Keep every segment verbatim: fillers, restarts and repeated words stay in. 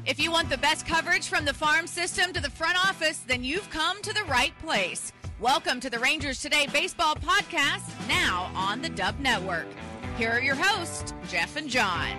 If you want the best coverage from the farm system to the front office, then you've come to the right place. Welcome to the Rangers Today Baseball Podcast, now on the Dub Network. Here are your hosts, Jeff and John.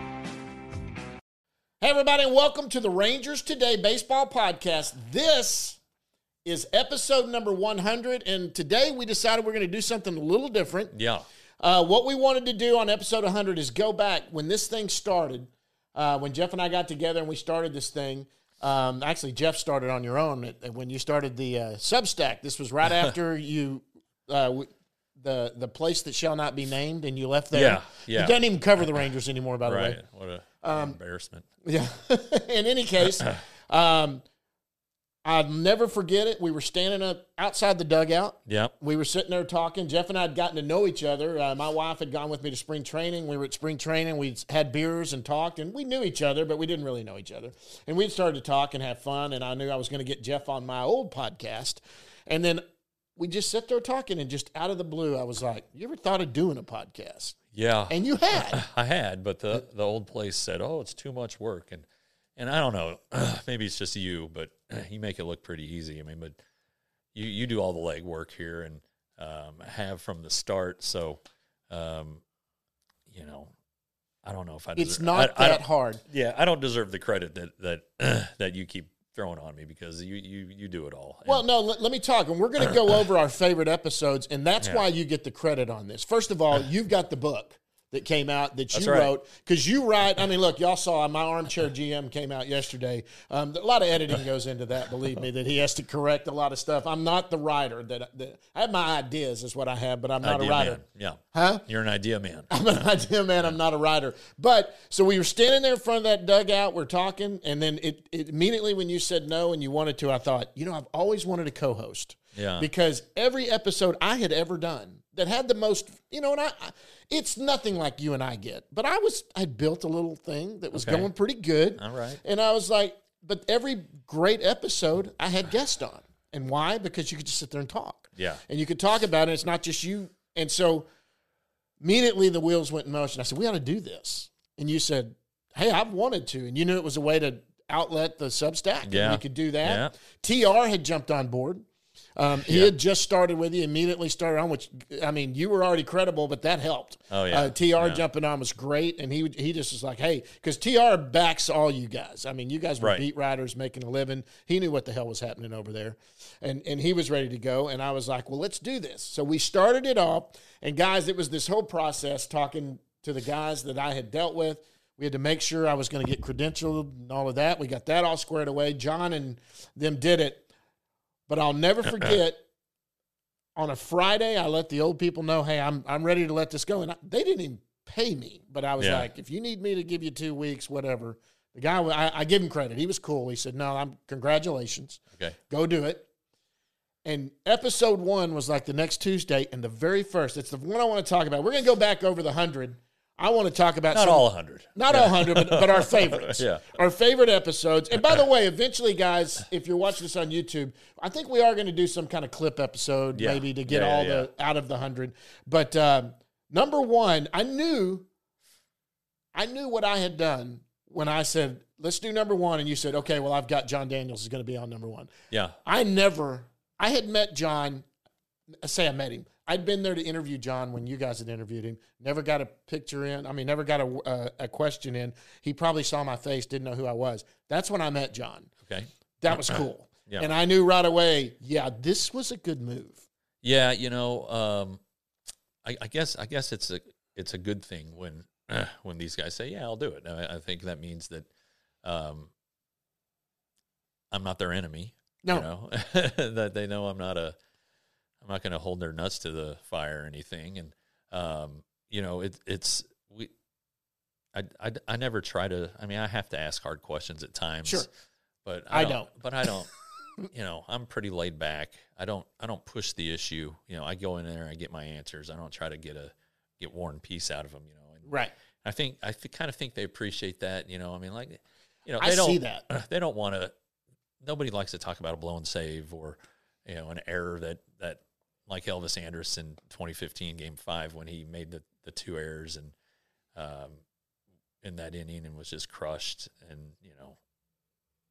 Hey, everybody, and welcome to the Rangers Today Baseball Podcast. This is episode number one hundred, and today we decided we're going to do something a little different. Yeah. Uh, what we wanted to do on episode one hundred is go back when this thing started, uh, when Jeff and I got together and we started this thing. Um, actually, Jeff started on your own when you started the uh, Substack. This was right after you uh, – the the place that shall not be named, and you left there. Yeah, yeah. It doesn't even cover the Rangers anymore, by the right. way. What a Um, embarrassment. Yeah. In any case, um, I'll never forget it. We were standing up outside the dugout. Yep. We were sitting there talking. Jeff and I had gotten to know each other. Uh, my wife had gone with me to spring training. We were at spring training. We had beers and talked, and we knew each other, but we didn't really know each other. And we started to talk and have fun, and I knew I was going to get Jeff on my old podcast. And then we just sat there talking, and just out of the blue, I was like, you ever thought of doing a podcast? Yeah. And you had. I had, but the, the old place said, oh, it's too much work. And and I don't know, maybe it's just you, but you make it look pretty easy. I mean, but you, you do all the legwork here and um, have from the start. So, um, you know, I don't know if I deserve, It's not I, that I hard. Yeah, I don't deserve the credit that that that you keep throwing on me because you you, you do it all. And well, no, let, let me talk. And we're going to go over our favorite episodes, and that's Yeah. why you get the credit on this. First of all, you've got the book that came out that you That's right. wrote, because you write, I mean, look, y'all saw my Armchair G M came out yesterday. Um, a lot of editing goes into that, believe me, that he has to correct a lot of stuff. I'm not the writer. that, that I have my ideas is what I have, but I'm not idea a writer. man. Yeah. Huh? You're an idea man. I'm an idea man. I'm not a writer. But so we were standing there in front of that dugout. We're talking. And then it, it immediately when you said no and you wanted to, I thought, you know, I've always wanted to co-host. Yeah. Because every episode I had ever done that had the most, you know, and I, I it's nothing like you and I get. But I was, I built a little thing that was Okay. going pretty good. All right. And I was like, but every great episode I had guests on. And why? Because you could just sit there and talk. Yeah. And you could talk about it. It's not just you. And so immediately the wheels went in motion. I said, we ought to do this. And you said, hey, I've wanted to. And you knew it was a way to outlet the Substack. And Yeah. we could do that. Yeah. T R had jumped on board. Um, he Yeah. had just started with you, immediately started on, which, I mean, you were already credible, but that helped. Oh, yeah. Uh, T R Yeah. jumping on was great. And he he just was like, hey, because T R backs all you guys. I mean, you guys were Right. beat writers making a living. He knew what the hell was happening over there. And, and he was ready to go. And I was like, well, let's do this. So we started it off. And, guys, it was this whole process talking to the guys that I had dealt with. We had to make sure I was going to get credentialed and all of that. We got that all squared away. John and them did it. But I'll never forget, on a Friday, I let the old people know, hey, I'm I'm ready to let this go. And I, they didn't even pay me. But I was Yeah. like, if you need me to give you two weeks, whatever. The guy, I, I give him credit. He was cool. He said, no, I'm congratulations. Okay. Go do it. And episode one was like the next Tuesday. And the very first, it's the one I want to talk about. We're going to go back over the one hundred. I want to talk about Not some, all one hundred. Not Yeah. all one hundred, but, but our favorites. Yeah. Our favorite episodes. And by the way, eventually, guys, if you're watching this on YouTube, I think we are going to do some kind of clip episode Yeah. maybe to get Yeah, all yeah, the out of the one hundred. But um, number one, I knew, I knew what I had done when I said, let's do number one. And you said, okay, well, I've got John Daniels is going to be on number one. Yeah. I never, I had met John, say I met him. I'd been there to interview John when you guys had interviewed him. Never got a picture in. I mean, never got a, a, a question in. He probably saw my face, didn't know who I was. That's when I met John. Okay. That was cool. Yeah. And I knew right away, yeah, this was a good move. Yeah, you know, um, I, I guess I guess it's a it's a good thing when uh, when these guys say, "Yeah, I'll do it." I, I think that means that um, I'm not their enemy. No. You know? That they know I'm not a I'm not going to hold their nuts to the fire or anything. And um, you know, it, it's we. I, I, I never try to. I mean, I have to ask hard questions at times. Sure. But I, I don't, don't. But I don't. You know, I'm pretty laid back. I don't. I don't push the issue. You know, I go in there, I get my answers. I don't try to get a get war and peace out of them. You know, and Right. I think I th- kind of think they appreciate that. You know, I mean, like, you know, I they don't see that. they don't want to. Nobody likes to talk about a blown save or, you know, an error that that like Elvis Andrus in twenty fifteen Game Five when he made the the two errors and um in that inning and was just crushed and you know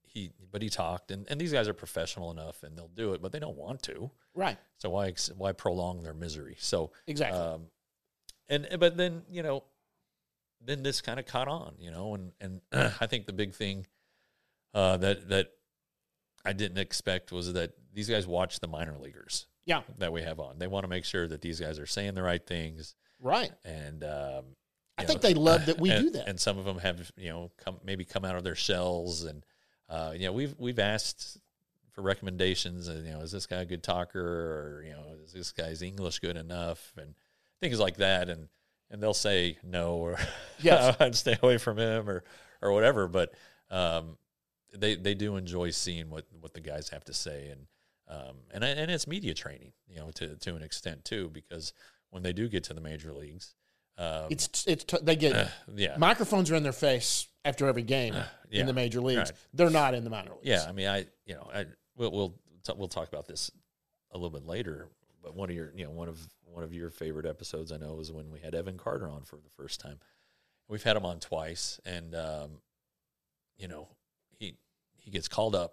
he, but he talked, and, and these guys are professional enough, and they'll do it, but they don't want to. Right. So why why prolong their misery? So exactly. Um, and but then you know, then this kind of caught on, you know, and and I think the big thing uh, that that I didn't expect was that these guys watch the minor leaguers. Yeah. That we have on. They want to make sure that these guys are saying the right things. Right. And um, I know, think they love that we and, do that. And some of them have, you know, come maybe come out of their shells, and uh, you know, we've we've asked for recommendations, and you know, is this guy a good talker, or you know, is this guy's English good enough, and things like that, and and they'll say no, or yes, I'd stay away from him, or or whatever. But um, they they do enjoy seeing what what the guys have to say, and um, and and it's media training, you know, to to an extent too, because when they do get to the major leagues. Um, it's it's t- they get uh, yeah. microphones are in their face after every game uh, yeah. in the major leagues. Right. They're not in the minor leagues. Yeah, I mean, I you know, I we'll we'll t- we'll talk about this a little bit later. But one of your you know one of one of your favorite episodes I know was when we had Evan Carter on for the first time. We've had him on twice, and um, you know he he gets called up,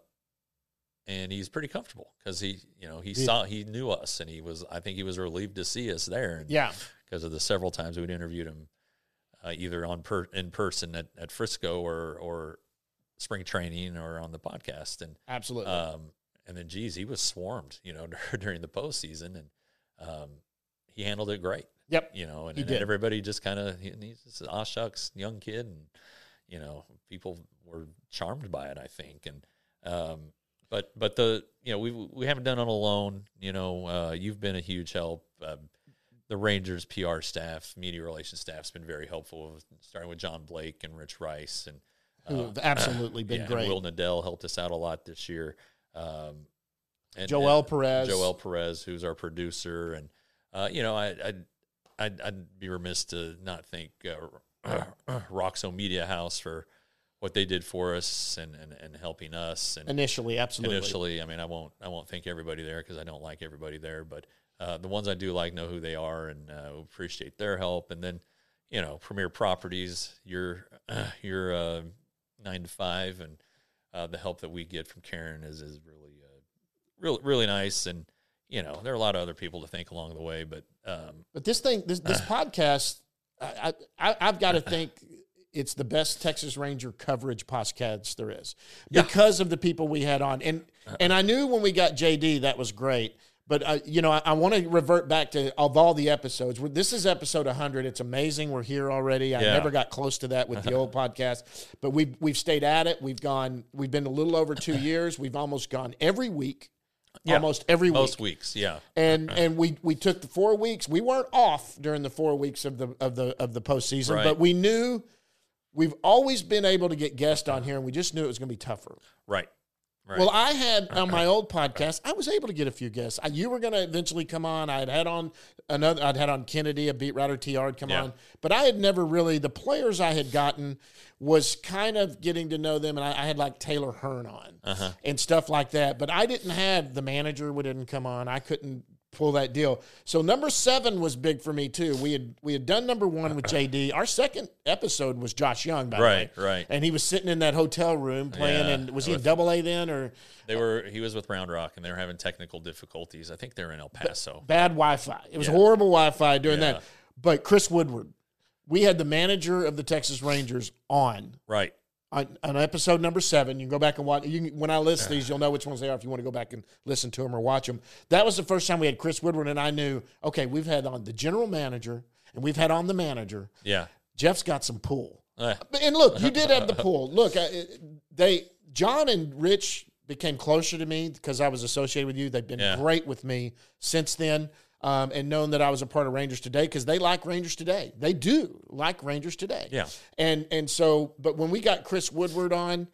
and he's pretty comfortable because he you know he yeah. saw he knew us, and he was I think he was relieved to see us there. And, yeah. Because of the several times we'd interviewed him, uh, either on per, in person at, at Frisco or or spring training or on the podcast, and absolutely, um, and then geez, he was swarmed, you know, during the postseason, and um, he handled it great. Yep, you know, and, he and did. everybody just kind of he, he's just an aw shucks young kid, and you know, people were charmed by it, I think, and um, but but the you know we we haven't done it alone. You know, uh, you've been a huge help. Uh, The Rangers P R staff, media relations staff has been very helpful, starting with John Blake and Rich Rice. And uh, who have absolutely been yeah, great. And Will Nadell helped us out a lot this year. Um, and, Joel and Perez. Joel Perez, who's our producer. And, uh, you know, I, I'd, I'd, I'd be remiss to not thank uh, Roxo Media House for what they did for us and, and, and helping us. And initially, absolutely. Initially, I mean, I won't I won't thank everybody there because I don't like everybody there, but Uh, the ones I do like know who they are, and uh, appreciate their help. And then, you know, Premier Properties, your uh, your uh, nine to five, and uh, the help that we get from Karen is is really, uh, really, really nice. And you know, there are a lot of other people to thank along the way, but um, but this thing, this this uh, podcast, I, I I've got to think it's the best Texas Ranger coverage podcast there is because yeah. of the people we had on, and and I knew when we got J D that was great. But, uh, you know, I, I want to revert back to of all the episodes. This is episode one hundred. It's amazing. We're here already. I yeah. never got close to that with the old podcast. But we've, we've stayed at it. We've gone – we've been a little over two years. We've almost gone every week, yeah. almost every week. Most weeks, yeah. And and we, we took the four weeks. We weren't off during the four weeks of the of the, of the postseason. Right. But we knew – we've always been able to get guests on here, and we just knew it was going to be tougher. Right. Right. Well, I had on my old podcast, I was able to get a few guests. I, you were going to eventually come on. I had had on another. I'd had on Kennedy, a beat writer, T R, come yeah. on. But I had never really. The players I had gotten was kind of getting to know them, and I, I had like Taylor Hearn on uh-huh. and stuff like that. But I didn't have the manager. We didn't come on. I couldn't pull that deal. So number seven was big for me too. We had we had done number one with J D. Our second episode was Josh Young, by right, the way. right. And he was sitting in that hotel room playing. Yeah, and was he in Double A then, or they were? He was with Round Rock, and they were having technical difficulties. I think they were in El Paso. Bad Wi-Fi. It was yeah. horrible Wi-Fi during yeah. that. But Chris Woodward, we had the manager of the Texas Rangers on. Right. On, on episode number seven, you can go back and watch. You can, when I list these, you'll know which ones they are if you want to go back and listen to them or watch them. That was the first time we had Chris Woodward, and I knew, okay, we've had on the general manager, and we've had on the manager. Yeah. Jeff's got some pull. Uh. And look, you did have the pull. Look, I, they John and Rich became closer to me because I was associated with you. They've been yeah. great with me since then. Um, and known that I was a part of Rangers Today because they like Rangers Today. They do like Rangers Today. Yeah. And and so, but when we got Chris Woodward on,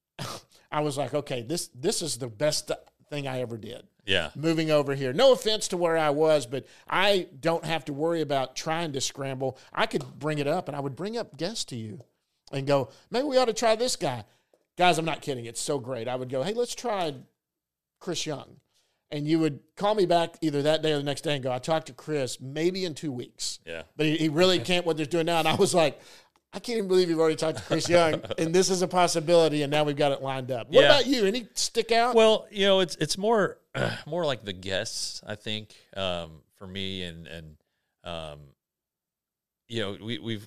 I was like, okay, this this is the best thing I ever did. Yeah. Moving over here. No offense to where I was, but I don't have to worry about trying to scramble. I could bring it up, and I would bring up guests to you and go, maybe we ought to try this guy. Guys, I'm not kidding. It's so great. I would go, hey, let's try Chris Young. And you would call me back either that day or the next day and go, I talked to Chris maybe in two weeks. Yeah. But he, he really can't what they're doing now. And I was like, I can't even believe you've already talked to Chris Young, and this is a possibility, and now we've got it lined up. What Yeah. about you? Any stick out? Well, you know, it's it's more uh, more like the guests, I think, um, for me, and and um, you know, we we've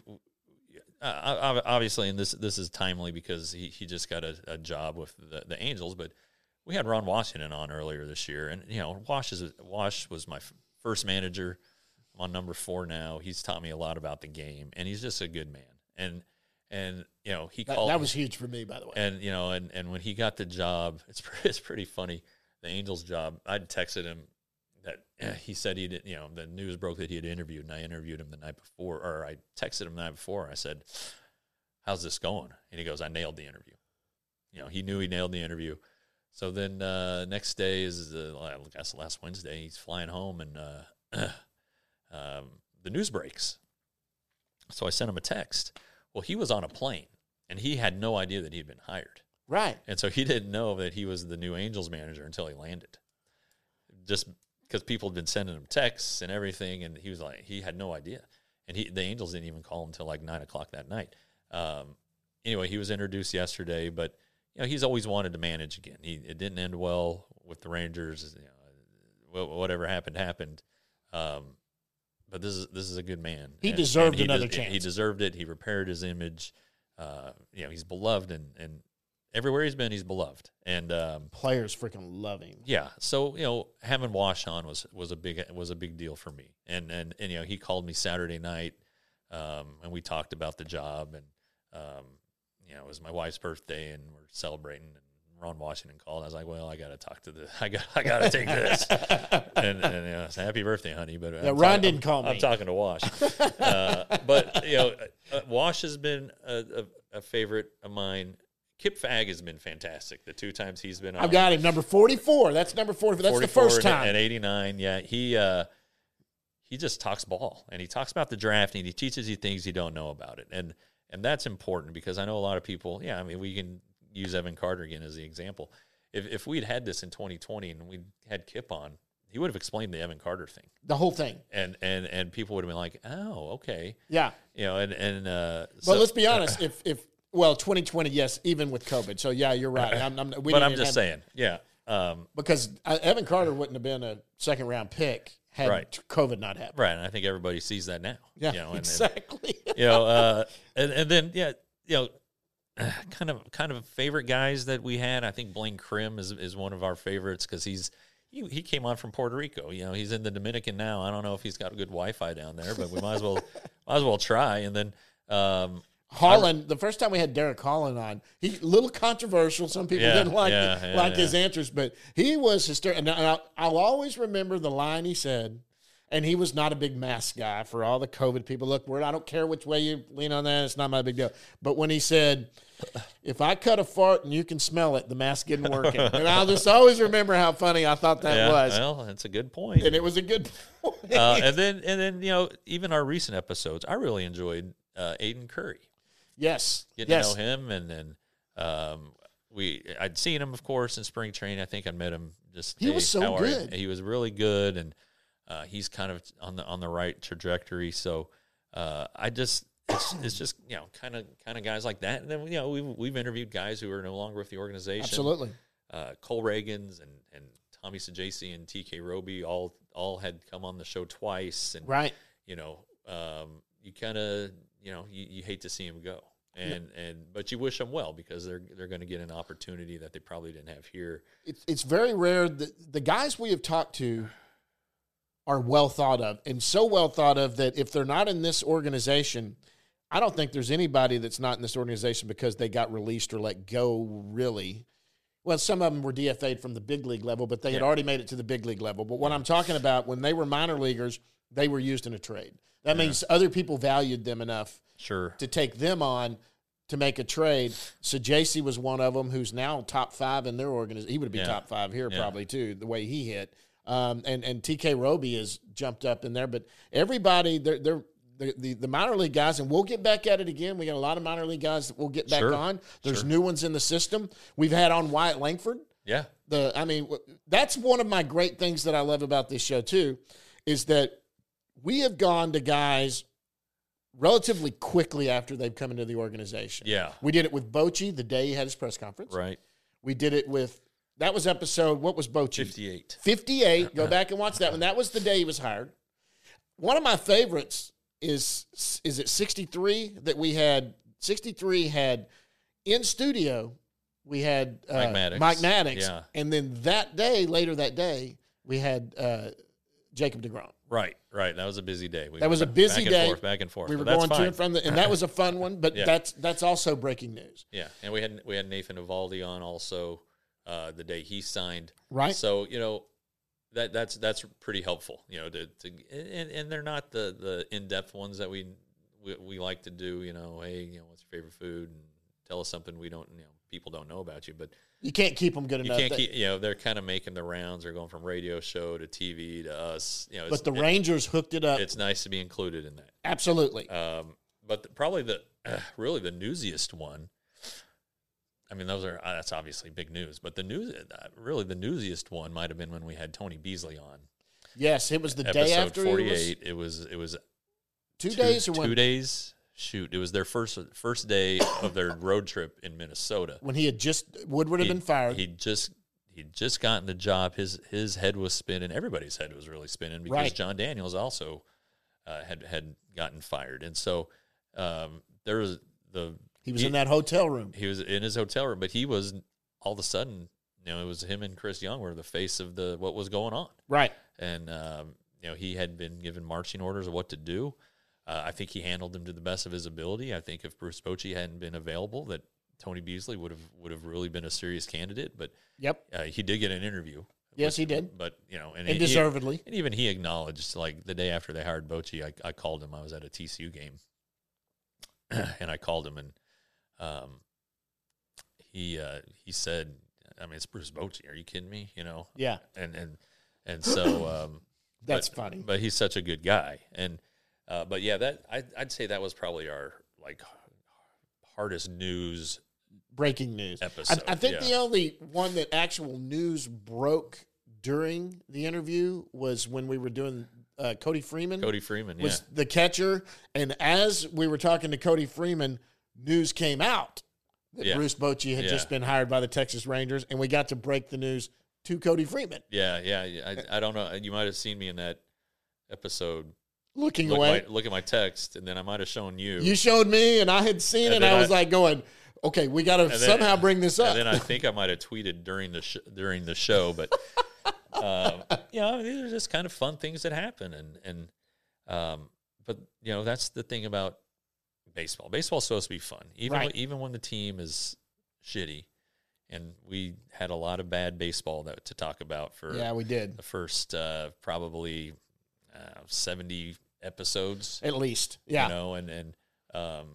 uh, obviously, and this this is timely because he, he just got a, a job with the, the Angels, but we had Ron Washington on earlier this year, and you know, Wash is Wash was my f- first manager. I'm on number four now. He's taught me a lot about the game, and he's just a good man. And and you know, he that, called. That was huge for me, by the way. And you know, and, and when he got the job, it's it's pretty funny. The Angels job, I'd texted him that eh, he said he did. You know, the news broke that he had interviewed, and I interviewed him the night before, or I texted him the night before. I said, "How's this going?" And he goes, "I nailed the interview." You know, he knew he nailed the interview. So then uh, next day is the I guess last Wednesday. He's flying home, and uh, um, the news breaks. So I sent him a text. Well, he was on a plane, and he had no idea that he'd been hired. Right. And so he didn't know that he was the new Angels manager until he landed. Just because people had been sending him texts and everything, and he was like, he had no idea. And he, the Angels didn't even call him until like nine o'clock that night. Um, anyway, he was introduced yesterday, but you know, he's always wanted to manage again. He it didn't end well with the Rangers. You know, whatever happened happened. Um, But this is this is a good man. He and, deserved and he another des- chance. He deserved it. He repaired his image. Uh, you know, he's beloved, and, and everywhere he's been, he's beloved. And um, players freaking love him. yeah, so you know, having Wash on was was a big was a big deal for me. And and, and you know, he called me Saturday night, um, and we talked about the job. And um, you know, it was my wife's birthday, and we're celebrating. And Ron Washington called. I was like, "Well, I got to talk to the. I got. I got to take this." and and you know, it's happy birthday, honey. But Yeah, I'm Ron talk- didn't I'm, call me. I'm talking to Wash. uh, but you know, uh, Wash has been a, a, a favorite of mine. Kip Fagg has been fantastic. The two times he's been on. I've got him number forty-four. That's number forty-four. That's the first and- time. And eighty-nine. Yeah, he uh, he just talks ball, and he talks about the draft, and he teaches you things you don't know about it, and and that's important because I know a lot of people. Yeah, I mean, we can use Evan Carter again as the example. If if we'd had this in twenty twenty and we had Kip on, he would have explained the Evan Carter thing, The whole thing. and and and people would have been like, "Oh, okay," Yeah. you know. And and uh, But so- let's be honest. if if well, twenty twenty, yes, even with COVID. So yeah, you're right. I'm, I'm, we but didn't I'm even just have- saying, yeah, um, because uh, Evan Carter wouldn't have been a second round pick had Right. COVID not happened. right. And I think everybody sees that now. Yeah, you know, and, and, exactly. you know, uh, and and then yeah, you know. Kind of, kind of favorite guys that we had. I think Blaine Krim is is one of our favorites because he's he, he came on from Puerto Rico. You know, he's in the Dominican now. I don't know if he's got a good Wi-Fi down there, but we might as well might as well try. And then um, Holland, the first time we had Derek Holland on, he a little controversial. Some people Yeah, didn't like yeah, it, yeah, like yeah. his answers, but he was hysterical. And I'll, I'll always remember the line he said. And he was not a big mask guy for all the COVID people. Look, we're, I don't care which way you lean on that. It's not my big deal. But when he said, if I cut a fart and you can smell it, the mask isn't working. And I'll just always remember how funny I thought that yeah, was. well, that's a good point. And it was a good point. uh, and then and then you know, even our recent episodes, I really enjoyed uh, Aiden Curry. yes. Getting yes. to know him, and then um, we I'd seen him, of course, in spring training. I think I met him just. He was hey, so how are you?" good. He was really good, and uh, he's kind of on the on the right trajectory. So uh, I just it's, it's just you know kind of kind of guys like that. And then you know we've we've interviewed guys who are no longer with the organization. Absolutely. Uh, Cole Reagans and and Tommy Sajasi and T K Roby all all had come on the show twice, and Right. you know um, you kind of you know you, you hate to see him go. And and but you wish them well because they're they're going to get an opportunity that they probably didn't have here. It's, it's very rare that the guys we have talked to are well thought of, and so well thought of that if they're not in this organization, I don't think there's anybody that's not in this organization because they got released or let go, really. Well, some of them were D F A'd from the big league level, but they had Yeah. already made it to the big league level. But what I'm talking about, when they were minor leaguers, they were used in a trade. That means other people valued them enough Sure. to take them on to make a trade. So J C was one of them who's now top five in their organization. He would be Yeah. top five here Yeah. probably too, the way he hit. Um, and, and T K Roby has jumped up in there. But everybody, they're, they're, the, the, the minor league guys, and we'll get back at it again. We got a lot of minor league guys that we'll get back Sure. on. There's Sure. new ones in the system. We've had on Wyatt Langford. Yeah. The I mean, w- that's one of my great things that I love about this show too, is that we have gone to guys relatively quickly after they've come into the organization. Yeah. We did it with Bochy the day he had his press conference. Right. We did it with, that was episode, what was Bochy? fifty-eight. fifty-eight. Go back and watch that one. That was the day he was hired. One of my favorites is, is it sixty-three that we had, sixty-three had in studio, we had uh, Mike Maddox. Mike Maddox. Yeah. And then that day, later that day, we had uh, Jacob deGrom. Right, right. That was a busy day. We That was a went busy back day. And forth, back and forth. We were but that's going to fine. and from the, and that was a fun one. But Yeah. that's that's also breaking news. Yeah, and we had we had Nathan Evaldi on also uh, the day he signed. Right. So you know that that's that's pretty helpful. You know, to, to and, and they're not the, the in depth ones that we, we we like to do. You know, hey, you know, what's your favorite food? And tell us something we don't, you know, people don't know about you. But You can't keep them good you enough. can't They- keep. You know, they're kind of making the rounds. They're going from radio show to T V to us. You know, it's, but the it- Rangers hooked it up. it's nice to be included in that. Absolutely. Um, but the, probably the uh, really the newsiest one. I mean, those are uh, that's obviously big news. But the news, uh, really, the newsiest one might have been when we had Tony Beasley on. yes, it was the episode day after. It was forty-eight. It was it was two, days or two when, days. Shoot, it was their first first day of their road trip in Minnesota. when he had just Woodward had He- been fired. He'd just he'd just gotten the job. His his head was spinning. Everybody's head was really spinning because Right. John Daniels also uh, had had gotten fired, and so um, there was the he was he- in that hotel room. he was in his hotel room, but he was all of a sudden, you know, it was him and Chris Young were the face of the what was going on, Right. and um, you know he had been given marching orders of what to do. Uh, I think he handled them to the best of his ability. I think if Bruce Bochy hadn't been available, that Tony Beasley would have would have really been a serious candidate. But Yep. uh, he did get an interview. Yes, he did. But you know, and, And he- deservedly. and even he acknowledged, like the day after they hired Bochy, I, I called him. I was at a T C U game, and I called him, and um, he uh, he said, "I mean, it's Bruce Bochy. Are you kidding me? You know?" Yeah. And and and so um, That's but, funny. But he's such a good guy, and uh, but yeah, that I, I'd say that was probably our like hardest news. Breaking news. Episode, I, I think yeah. the only one that actual news broke during the interview was when we were doing uh, Cody Freeman. Cody Freeman, was yeah, the catcher, and as we were talking to Cody Freeman, news came out that Yeah. Bruce Bochy had Yeah. just been hired by the Texas Rangers, and we got to break the news to Cody Freeman. yeah, yeah. yeah. I, I don't know. You might have seen me in that episode. Looking Look, away, my, look at my text, and then I might have shown you. you showed me, and I had seen it, And and then I was I- like going, okay, we got to then- somehow bring this up. And then I think I might have tweeted during the sh- during the show, but um, you know, these are just kind of fun things that happen, and and um, but you know, that's the thing about baseball. Baseball's supposed to be fun, even Right. when, even when the team is shitty, and we had a lot of bad baseball that to talk about for yeah, we did. the first uh, probably uh, seventy episodes. At least. Yeah. You know, and and um,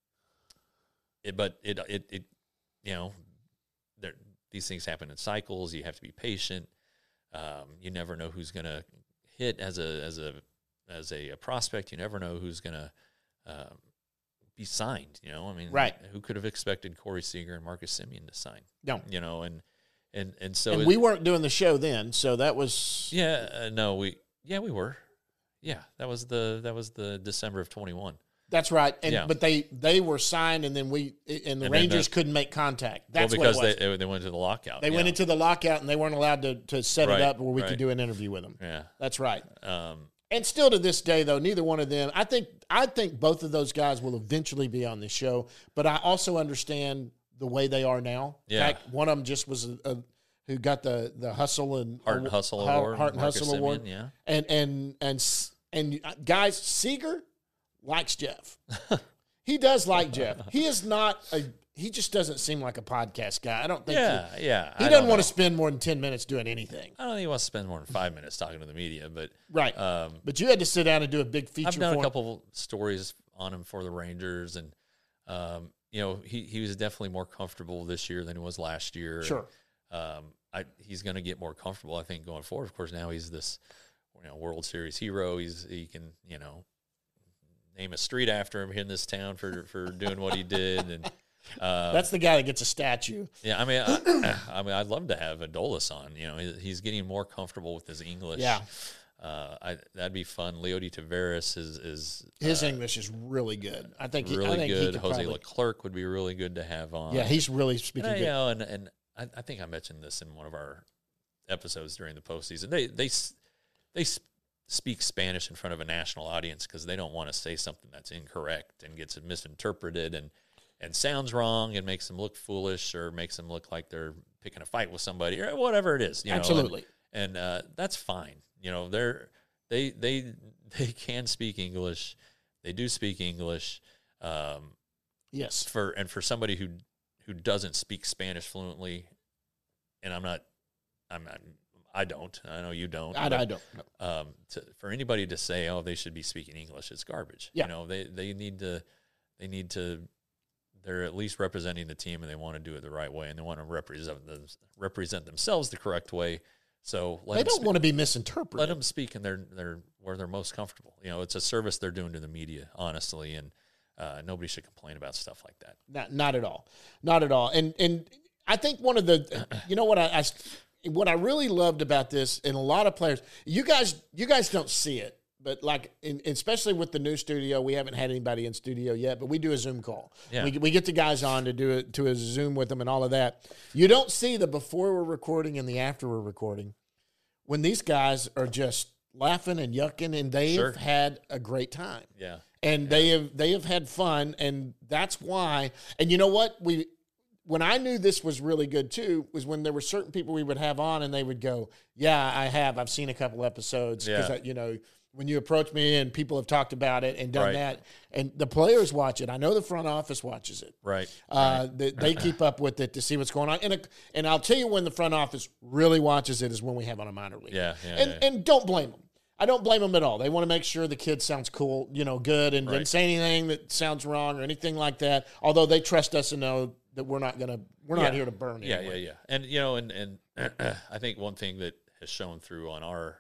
it, but it it it you know, there these things happen in cycles. You have to be patient. Um, you never know who's going to hit as a as a as a, a prospect. You never know who's going to um, be signed. You know, I mean, Right. Who could have expected Corey Seager and Marcus Semien to sign? No. You know, and and and so And it- we weren't doing the show then, so that was yeah, uh, no, we yeah we were, yeah, that was the that was the December of twenty-one. that's right. And Yeah. but they they were signed, and then we and the And then Rangers the- couldn't make contact. That's well, because what it was. they they went to the lockout. They yeah. went into the lockout, and they weren't allowed to to set Right, it up where we right. could do an interview with them. yeah. That's right. Um, And still to this day, though, neither one of them. I think I think both of those guys will eventually be on this show. But I also understand the way they are now. In Yeah. fact, one of them just was a, a who got the the hustle and Heart and Hustle Heart- Award. Heart and Marcus Hustle Award. Semien, yeah. And and and s- and uh, guys, Seager likes Jeff. He does like Jeff. He is not a. He just doesn't seem like a podcast guy. I don't think. Yeah, yeah. He, he I doesn't don't want know. to spend more than ten minutes doing anything. I don't think he wants to spend more than five minutes talking to the media, but Right. um, But you had to sit down and do a big feature I've done for a him. couple stories on him for the Rangers, and um, you know, he he was definitely more comfortable this year than he was last year. Sure. Um, I he's going to get more comfortable, I think, going forward. Of course, now he's this, you know, World Series hero. He's he can, you know, name a street after him here in this town for for doing what he did, and uh, That's the guy that gets a statue. yeah. I mean, I, I mean, I'd love to have Adolis on. You know, he, he's getting more comfortable with his English. Yeah. Uh, I, that'd be fun. Leody Taveras is is his uh, English is really good. I think really he, I think good. He could Jose probably, Leclerc would be really good to have on. Yeah, he's really speaking and I, good. You know, and and I, I think I mentioned this in one of our episodes during the postseason. They they they speak Spanish in front of a national audience because they don't want to say something that's incorrect and gets misinterpreted and and sounds wrong and makes them look foolish or makes them look like they're picking a fight with somebody or whatever it is. You know? Absolutely, and, and uh, that's fine. You know, they're they they they can speak English. They do speak English. Um, yes, for and for somebody who who doesn't speak Spanish fluently, and I'm not, I'm not, I don't. I know you don't. I, but, I don't. No. Um, to, for anybody to say, oh, they should be speaking English, it's garbage. Yeah. You know, they they need to, they need to. They're at least representing the team, and they want to do it the right way, and they want to represent them, represent themselves the correct way. So let they them don't speak, want to be misinterpreted. let them speak in their their where they're most comfortable. You know, it's a service they're doing to the media, honestly, and uh, nobody should complain about stuff like that. Not, not at all, not at all. And and I think one of the, you know what I, I what I really loved about this, and a lot of players, you guys you guys don't see it, but like in, especially with the new studio, we haven't had anybody in studio yet, but we do a Zoom call. Yeah. We we get the guys on to do it to a Zoom with them and all of that. You don't see the before we're recording and the after we're recording, when these guys are just laughing and yucking, and they Sure. have had a great time. Yeah. And they have they have had fun, and that's why. And you know what? We when I knew this was really good too was when there were certain people we would have on, and they would go, "Yeah, I have. I've seen a couple episodes because Yeah. you know when you approach me and people have talked about it and done Right. that, and the players watch it. I know the front office watches it. Right. Uh, they, they keep up with it to see what's going on. And a, and I'll tell you when the front office really watches it is when we have on a minor league. Yeah, yeah, and yeah. and don't blame them. I don't blame them at all. They want to make sure the kid sounds cool, you know, good, and Right. didn't say anything that sounds wrong or anything like that. Although they trust us to know that we're not gonna, we're not Yeah. here to burn. Yeah, anyway. yeah, yeah. And you know, and and I think one thing that has shown through on our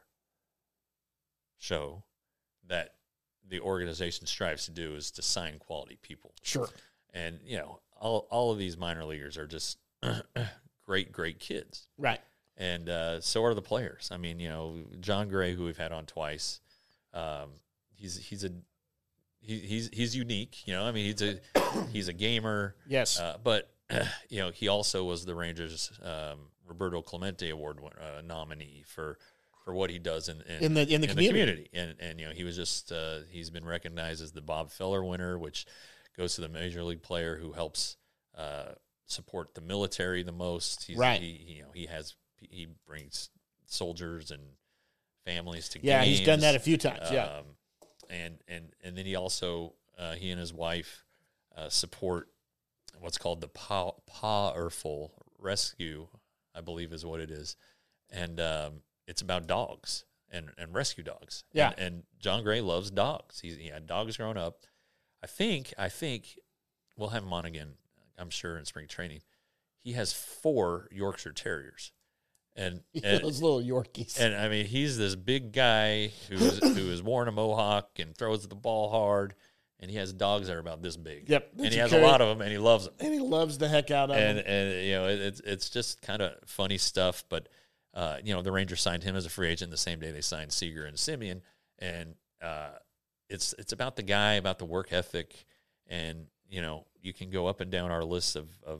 show that the organization strives to do is to sign quality people. Sure. And you know, all all of these minor leaguers are just great, great kids. Right. And uh, so are the players. I mean, you know, John Gray, who we've had on twice, um, he's he's a he, he's he's unique. You know, I mean, he's a he's a gamer. Yes. Uh, but you know, he also was the Rangers um, Roberto Clemente Award uh, nominee for for what he does in in, In the- in the community. And and you know, he was just uh, he's been recognized as the Bob Feller winner, which goes to the major league player who helps uh, support the military the most. He's, Right. He, you know, he has. He brings soldiers and families to Yeah, games. he's done that a few times. Yeah. Um, and and and then he also uh, he and his wife uh, support what's called the Pa Powerful Rescue, I believe is what it is, and um, it's about dogs and, and rescue dogs. Yeah. And, and John Gray loves dogs. He's, he had dogs growing up. I think I think we'll have him on again, I'm sure, in spring training. He has four Yorkshire Terriers. And, and Those little Yorkies. and I mean, he's this big guy who's who is worn a mohawk and throws the ball hard, and he has dogs that are about this big. Yep, and that he you has carry- a lot of them, and he loves them. And he loves the heck out of And them. and you know, it, it's it's just kind of funny stuff. But uh, you know, the Rangers signed him as a free agent the same day they signed Seager and Simeon, and uh, it's it's about the guy, about the work ethic, and you know, you can go up and down our list of of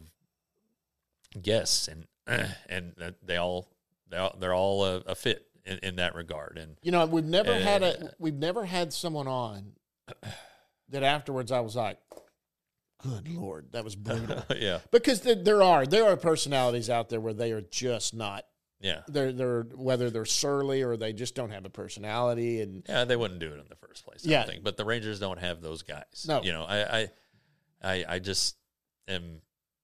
guests, and and they all they all they're all a, a fit in, in that regard. And You know, we've never Uh, had a we've never had someone on that afterwards I was like, good Lord, that was brutal. yeah, Because th- there are there are personalities out there where they are just not yeah, they're they're whether they're surly or they just don't have a personality, and yeah. They wouldn't do it in the first place. I Yeah. don't think. But the Rangers don't have those guys. No. you know, I I I, I just am.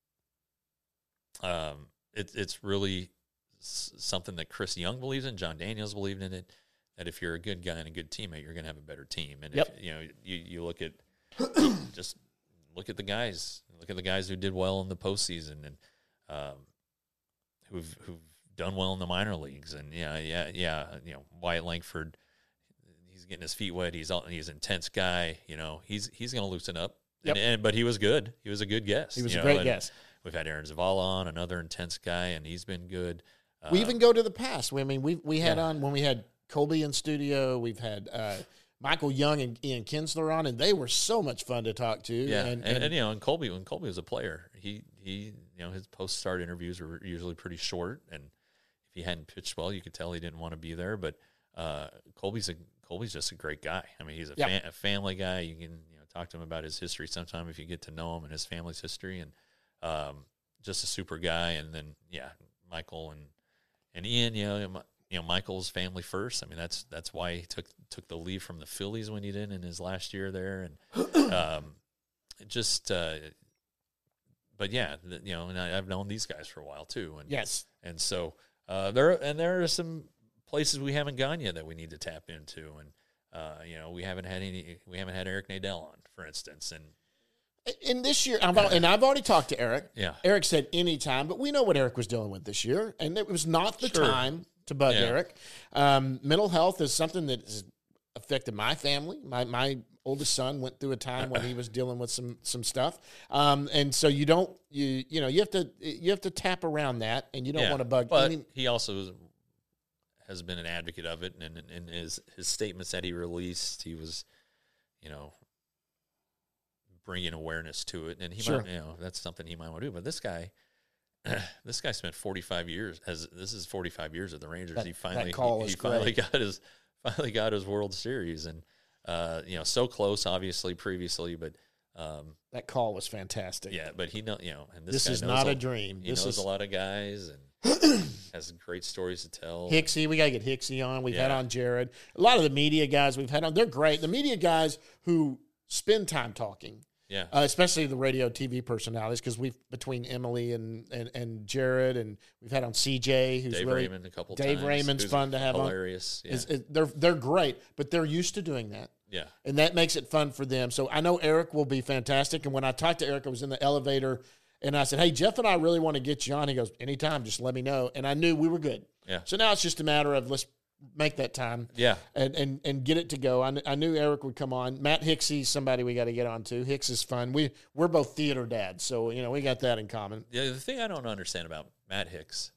Um, it's it's really s- something that Chris Young believes in. John Daniels believed in it. That if you're a good guy and a good teammate, you're going to have a better team. And Yep. if you know, you you look at just look at the guys. Look at the guys who did well in the postseason and um, who've who've done well in the minor leagues. And yeah, yeah, yeah. You know, Wyatt Langford, he's getting his feet wet. He's all, he's an intense guy. You know, he's he's going to loosen up. Yep. And, and but he was good. He was a good guest. he was you a know, great and guest. We've had Aaron Zavala on, another intense guy, and he's been good. We Uh, even go to the past. We, I mean, we we had yeah. on when we had Colby in studio. We've had uh, Michael Young and Ian Kinsler on, and they were so much fun to talk to. Yeah, and, and, and, and you know, and Colby, when Colby was a player, he he you know his post start interviews were usually pretty short, and if he hadn't pitched well, you could tell he didn't want to be there. But uh, Colby's a Colby's just a great guy. I mean, he's a, yeah. fa- a family guy. You can you know talk to him about his history sometime if you get to know him and his family's history, and um, just a super guy. And then yeah, Michael and and Ian, you know. You know, Michael's family first. I mean, that's that's why he took took the leave from the Phillies when he did in his last year there, and um, just. Uh, but yeah, the, you know, and I, I've known these guys for a while too, and yes, and so uh, there and there are some places we haven't gone yet that we need to tap into, and uh, you know, we haven't had any. We haven't had Eric Nadel on, for instance, and. And this year, I've, and I've already talked to Eric. Yeah, Eric said anytime, but we know what Eric was dealing with this year, and it was not the Sure. time to bug Yeah. Eric. Um, mental health is something that has affected my family. My my oldest son went through a time when he was dealing with some some stuff, um, and so you don't you you know you have to you have to tap around that, and you don't yeah. want to bug. But I mean, he also is, has been an advocate of it, and in his his statements that he released, he was, you know. Bringing awareness to it, and he Sure. might, you know, that's something he might want to do. But this guy, this guy spent forty-five years. As this is forty-five years of the Rangers. That- he finally, that call he, is he finally great. got his, finally got his World Series, and uh, you know, so close, obviously previously, but um, that call was fantastic. yeah, but he know, you know, and this, This guy is knows not a, a dream. He This knows is a lot of guys and has great stories to tell. Hicksy, we got to get Hicksy on. We've had Yeah. on Jared. A lot of the media guys we've had on, they're great. The media guys who spend time talking. Yeah, Uh, especially the radio T V personalities, because we've between Emily and, and, and Jared, and we've had on C J, who's Dave really Raymond a couple Dave times. Raymond's who's fun to have on. hilarious. Yeah, is, is, they're they're great, but they're used to doing that, yeah, and that makes it fun for them. So I know Eric will be fantastic. And when I talked to Eric, I was in the elevator, and I said, "Hey, Jeff and I really want to get you on." He goes, "Anytime, just let me know." And I knew we were good. Yeah. So now it's just a matter of let's make that time. yeah. And, and and get it to go. I, kn- I knew Eric would come on. Matt Hicksy's somebody we got to get on too. Hicks is fun. We we're both theater dads, so you know we got that in common. Yeah, the thing I don't understand about Matt Hicks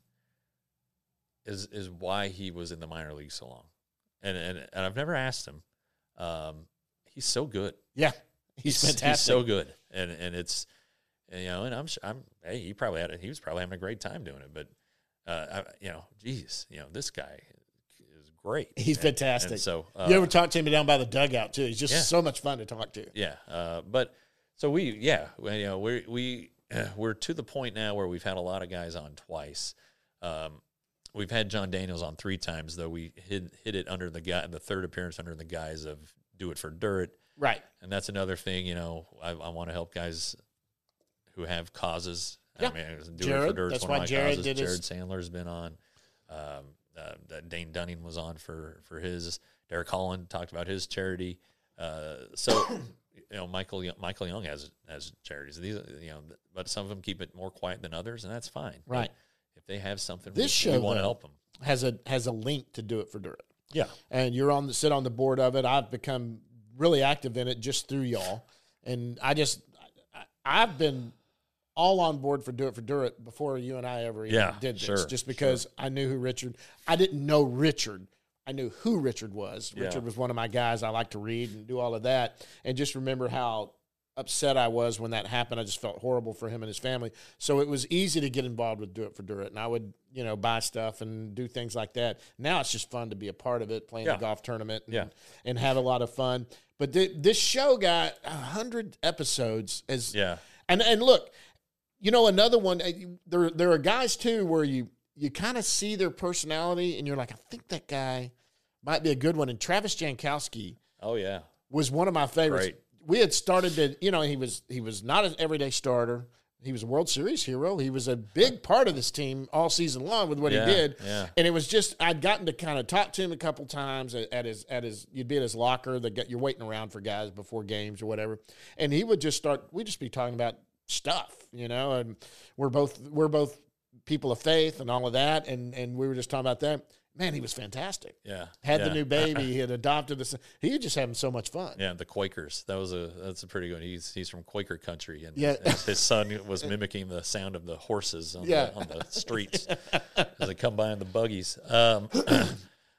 is is why he was in the minor league so long, and and, and I've never asked him. Um, he's so good. Yeah, he's, fantastic. He's so good, and and it's and, you know, and I'm I'm hey, he probably had a, he was probably having a great time doing it, but uh, I, you know, geez, you know, this guy is great. He's And- fantastic. And so uh, you ever talk to him down by the dugout too? He's just Yeah. so much fun to talk to. Yeah, uh, but so we, yeah, we, you know, we we we're to the point now where we've had a lot of guys on twice. Um, we've had John Daniels on three times, though we hit hit it under the guy the third appearance under the guise of do it for dirt, Right. and that's another thing. You know, I, I want to help guys who have causes. Yeah. I mean, do it for Jared, dirt. that's one why of my Jared causes. did his- Jared Sandler's been on. Um, uh, that Dane Dunning was on for for his. Derek Holland talked about his charity. Uh, so, you know, Michael Michael Young has has charities. These, you know, but some of them keep it more quiet than others, and that's fine. But Right. if they have something, This we, show, we want to though, help them. Has a has a link to do it for dirt. Yeah, And you're on the sit on the board of it. I've become really active in it just through y'all, and I just I, I've been all on board for Do It for Durrett before you and I ever even Yeah, did this, sure, just because I knew who Richard. I didn't know Richard. I knew who Richard was. Yeah. Richard was one of my guys. I like to read and do all of that, and just remember how upset I was when that happened. I just felt horrible for him and his family. So it was easy to get involved with Do It for Durrett, and I would, you know, buy stuff and do things like that. Now it's just fun to be a part of it, playing Yeah. the golf tournament, and, Yeah. and have a lot of fun. But th- this show got a hundred episodes. As yeah, and and look, you know, another one. uh, you- There there are guys too where you you kind of see their personality, and you're like, I think that guy might be a good one. And Travis Jankowski oh yeah, was one of my favorites. Great. We had started to, you know, he was he was not an everyday starter. He was a World Series hero. He was a big part of this team all season long with what Yeah, he did. yeah. And it was just I'd gotten to kind of talk to him a couple times at, at his at his you'd be at his locker. That get you're waiting around for guys before games or whatever, and he would just start. We'd just be talking about stuff, you know. And we're both we're both people of faith and all of that, and and we were just talking about that. Man, he was fantastic. yeah. Had yeah. the new baby. He had adopted this. He was just having so much fun. Yeah, the Quakers. That was a that's a pretty good. He's he's from Quaker country, and Yeah. his, his son was mimicking the sound of the horses on, Yeah. the, on the streets as they come by in the buggies. Um,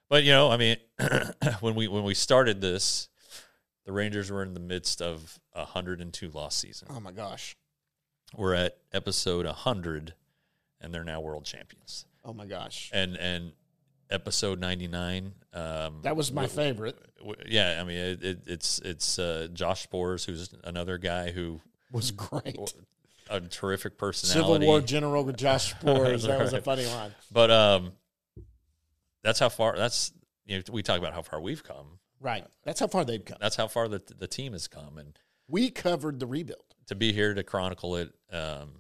But you know, I mean, when we when we started this, the Rangers were in the midst of a hundred and two loss season. Oh my gosh, we're at episode a hundred, and they're now world champions. Oh my gosh, and and episode ninety nine. Um, that was my w- favorite. W- yeah, I mean, it, it, it's it's uh, Josh Spores, who's another guy who was great. A terrific personality. Civil War general with Josh Spores. That was a funny line. But um, that's how far. That's you know we talk about how far we've come. Right. That's how far they've come. That's how far the the team has come, and we covered the rebuild. To be here to chronicle it um,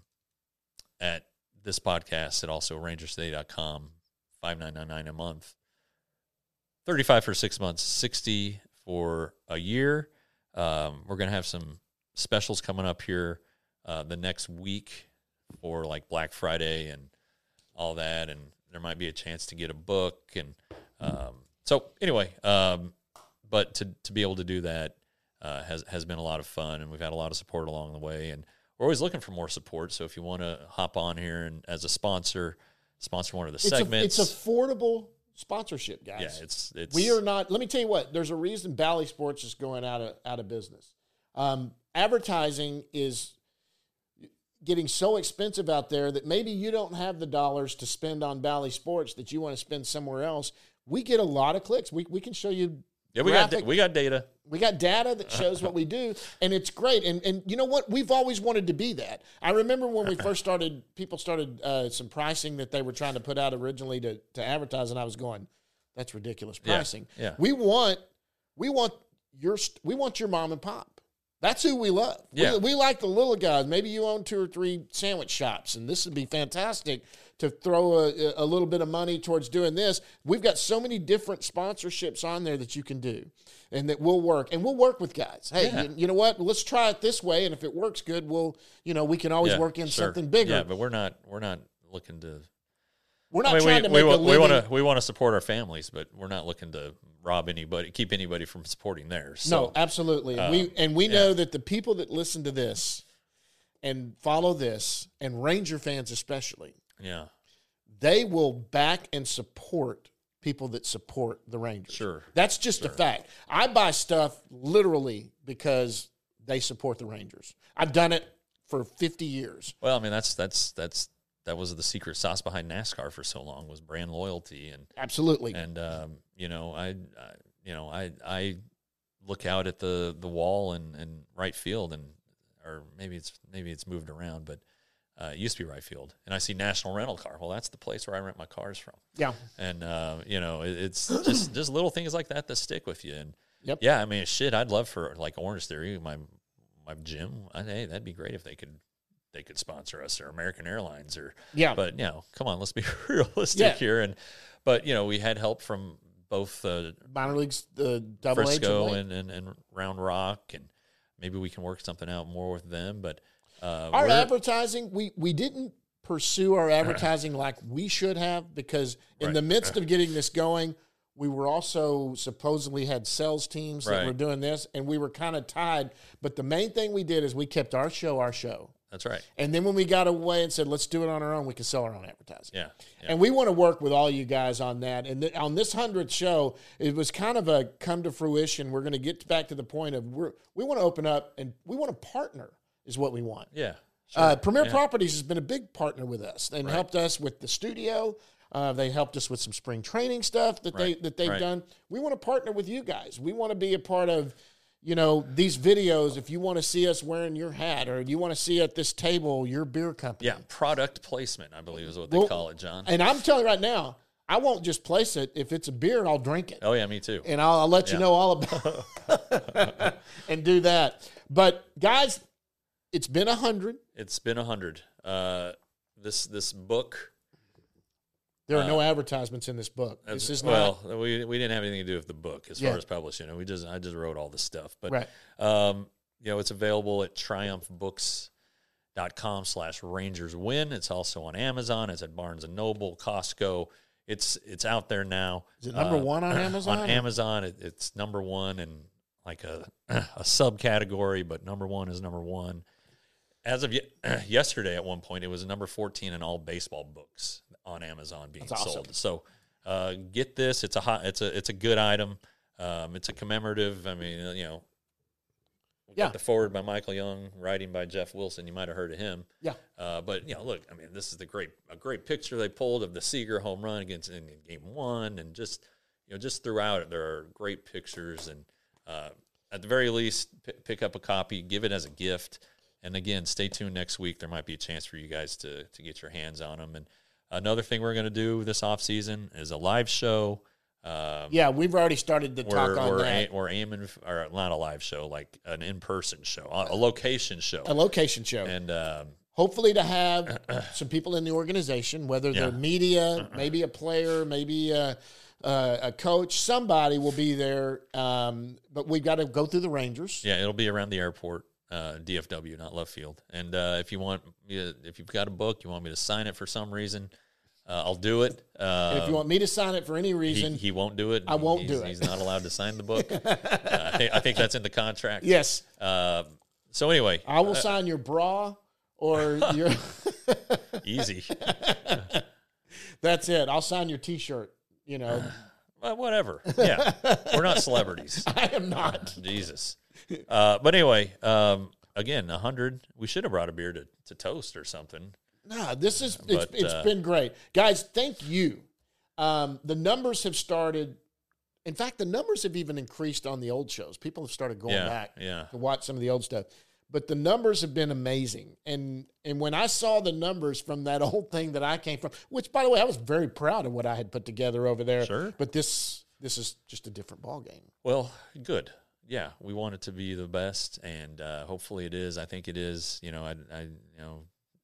at this podcast, and also Rangers Today dot com, five nine nine nine a month, thirty five for six months, sixty for a year. Um, we're gonna have some specials coming up here. Uh, the next week for like Black Friday and all that, and there might be a chance to get a book, and um, so anyway, um, but to to be able to do that uh, has has been a lot of fun, and we've had a lot of support along the way, and we're always looking for more support. So if you want to hop on here and as a sponsor, sponsor one of the it's segments, a, it's affordable sponsorship, guys. Yeah, it's it's we are not. Let me tell you what. There's a reason Bally Sports is going out of out of business. Um, advertising is getting so expensive out there that maybe you don't have the dollars to spend on Bally Sports that you want to spend somewhere else. We get a lot of clicks. We we can show you. Yeah, we graphic. got we got data. We got data that shows what we do, and it's great. And and you know what? We've always wanted to be that. I remember when we first started, people started uh, some pricing that they were trying to put out originally to to advertise, and I was going, "That's ridiculous pricing." Yeah, yeah. We want we want your we want your mom and pop. That's who we love. Yeah. We, we like the little guys. Maybe you own two or three sandwich shops, and this would be fantastic to throw a, a little bit of money towards doing this. We've got so many different sponsorships on there that you can do and that will work. And we'll work with guys. Hey, yeah. you, you know what? Let's try it this way, and if it works good, we'll, you know, we can always yeah, work in sure. something bigger. Yeah, but we're not we're not looking to We're not I mean, trying we, to make we, a we living. want to we want to support our families, but we're not looking to rob anybody, keep anybody from supporting theirs. So, no, absolutely. uh, we and we know yeah. that the people that listen to this and follow this, and Ranger fans especially, yeah, they will back and support people that support the Rangers. Sure. That's just Sure. a fact. I buy stuff literally because they support the Rangers. I've done it for fifty years. Well, I mean, that's that's that's that was the secret sauce behind NASCAR for so long, was brand loyalty, and Absolutely. and um, you know, I, I you know, I I look out at the the wall and and right field, and or maybe it's maybe it's moved around, but uh, it used to be right field, and I see National Rental Car. Well, that's the place where I rent my cars from. Yeah. And uh, you know, it, it's just just little things like that that stick with you. And Yep. yeah, I mean, shit, I'd love for like Orange Theory, my my gym. I, hey, that'd be great if they could they could sponsor us, or American Airlines, or Yeah. But you know, come on, let's be realistic Yeah. here. And but you know, we had help from both uh, Minor leagues, the double H Frisco and, and, and and Round Rock, and maybe we can work something out more with them. But uh, our we're- advertising, we we didn't pursue our advertising like we should have, because in Right. the midst of getting this going, we were also supposedly had sales teams that Right. were doing this, and we were kind of tied. But the main thing we did is we kept our show our show. that's right. And then when we got away and said, let's do it on our own, we can sell our own advertising. Yeah. yeah. And we want to work with all you guys on that. And th- on this hundredth show, it was kind of a come to fruition. We're going to get back to the point of we're, we want to open up and we want to partner is what we want. yeah. Sure. Uh, Premier yeah. Properties has been a big partner with us and Right. helped us with the studio. Uh, they helped us with some spring training stuff that Right. they that they've Right. done. We want to partner with you guys. We want to be a part of, you know, these videos. If you want to see us wearing your hat, or you want to see at this table your beer company. Yeah, product placement, I believe, is what they Well, call it, John. And I'm telling you right now, I won't just place it. If it's a beer, I'll drink it. Oh yeah, me too. And I'll, I'll let you Yeah. know all about it and do that. But guys, it's been a hundred. It's been a hundred. Uh, this this book. There are no advertisements in this book. That's, This is well, not we we didn't have anything to do with the book as Yeah. far as publishing it. We just I just wrote all this stuff. But right. um, you know, it's available at triumph books dot com slash Rangers Win. It's also on Amazon. It's at Barnes and Noble, Costco. It's it's out there now. Is it number Uh, one on Amazon? On Amazon, it, it's number one in like a a subcategory, but number one is number one. As of ye- yesterday, at one point, it was number fourteen in all baseball books on Amazon being That's awesome. sold. So uh, get this. It's a hot, it's a it's a good item. Um, it's a commemorative. I mean, you know, we Yeah. got the forward by Michael Young, writing by Jeff Wilson. You might have heard of him. Yeah. Uh, but you know, look, I mean, this is the great a great picture they pulled of the Seager home run against in, in game one, and just you know, just throughout it, there are great pictures. And uh, at the very least, p- pick up a copy, give it as a gift. And again, stay tuned next week. There might be a chance for you guys to to get your hands on them. And another thing we're going to do this off season is a live show. Um, Yeah, we've already started to talk we're, on we're that. A, we're aiming, f- or not a live show, like an in-person show, a location show. A location show. And um, Hopefully to have some people in the organization, whether they're Yeah. media, maybe a player, maybe a, a, a coach, somebody will be there. Um, but we've got to go through the Rangers. yeah, it'll be around the airport, uh, D F W, not left field. And uh, if you want, me to, if you've got a book, you want me to sign it for some reason, uh, I'll do it. Uh, And if you want me to sign it for any he, reason, he won't do it. I won't he's, do it. He's not allowed to sign the book. uh, I, think, I think that's in the contract. yes, Uh, so anyway, I will sign your bra or your. easy. That's it. I'll sign your T-shirt. You know, Well, whatever. Yeah, we're not celebrities. I am not. Jesus. Uh, but anyway, um, again, a hundred. We should have brought a beer to, to toast or something. Nah, this is it's, But, it's uh, been great, guys. Thank you. Um, the numbers have started. In fact, the numbers have even increased on the old shows. People have started going Yeah, back yeah. to watch some of the old stuff. But the numbers have been amazing. And and when I saw the numbers from that old thing that I came from, which by the way, I was very proud of what I had put together over there. Sure. But this this is just a different ball game. Well, good. Yeah, we want it to be the best, and uh, hopefully it is. I think it is. You know, I, I you know,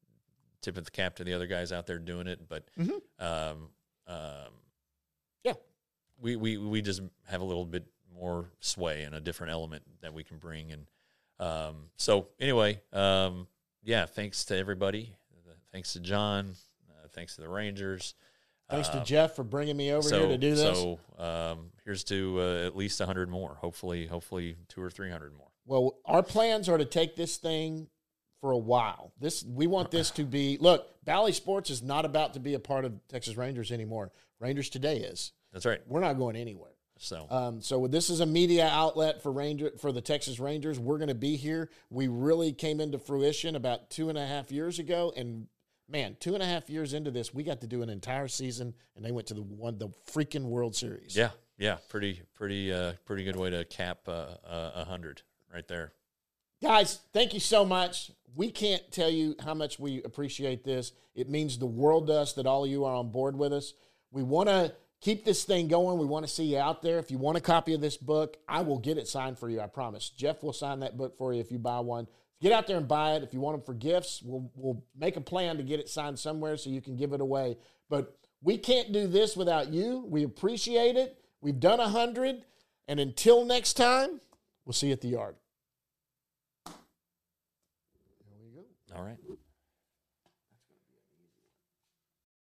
tip of the cap to the other guys out there doing it, but Mhm. um, um, Yeah. we, we we just have a little bit more sway and a different element that we can bring. And um, so anyway, um, yeah, thanks to everybody. Thanks to John. Uh, thanks to the Rangers. Thanks to Um, Jeff for bringing me over so, here to do this. So um, here's to uh, at least one hundred more. Hopefully, hopefully two or three hundred more. Well, our plans are to take this thing for a while. This we want this to be. Look, Bally Sports is not about to be a part of Texas Rangers anymore. Rangers Today is. That's right. We're not going anywhere. So Um, so this is a media outlet for Ranger for the Texas Rangers. We're going to be here. We really came into fruition about two and a half years ago, and man, two and a half years into this, we got to do an entire season, and they went to the one the freaking World Series. yeah, yeah, pretty, pretty, uh, pretty good way to cap uh, uh, a hundred right there. Guys, thank you so much. We can't tell you how much we appreciate this. It means the world to us that all of you are on board with us. We want to keep this thing going. We want to see you out there. If you want a copy of this book, I will get it signed for you, I promise. Jeff will sign that book for you if you buy one. Get out there and buy it. If you want them for gifts, we'll, we'll make a plan to get it signed somewhere so you can give it away. But we can't do this without you. We appreciate it. We've done a hundred. And until next time, we'll see you at the yard. All right.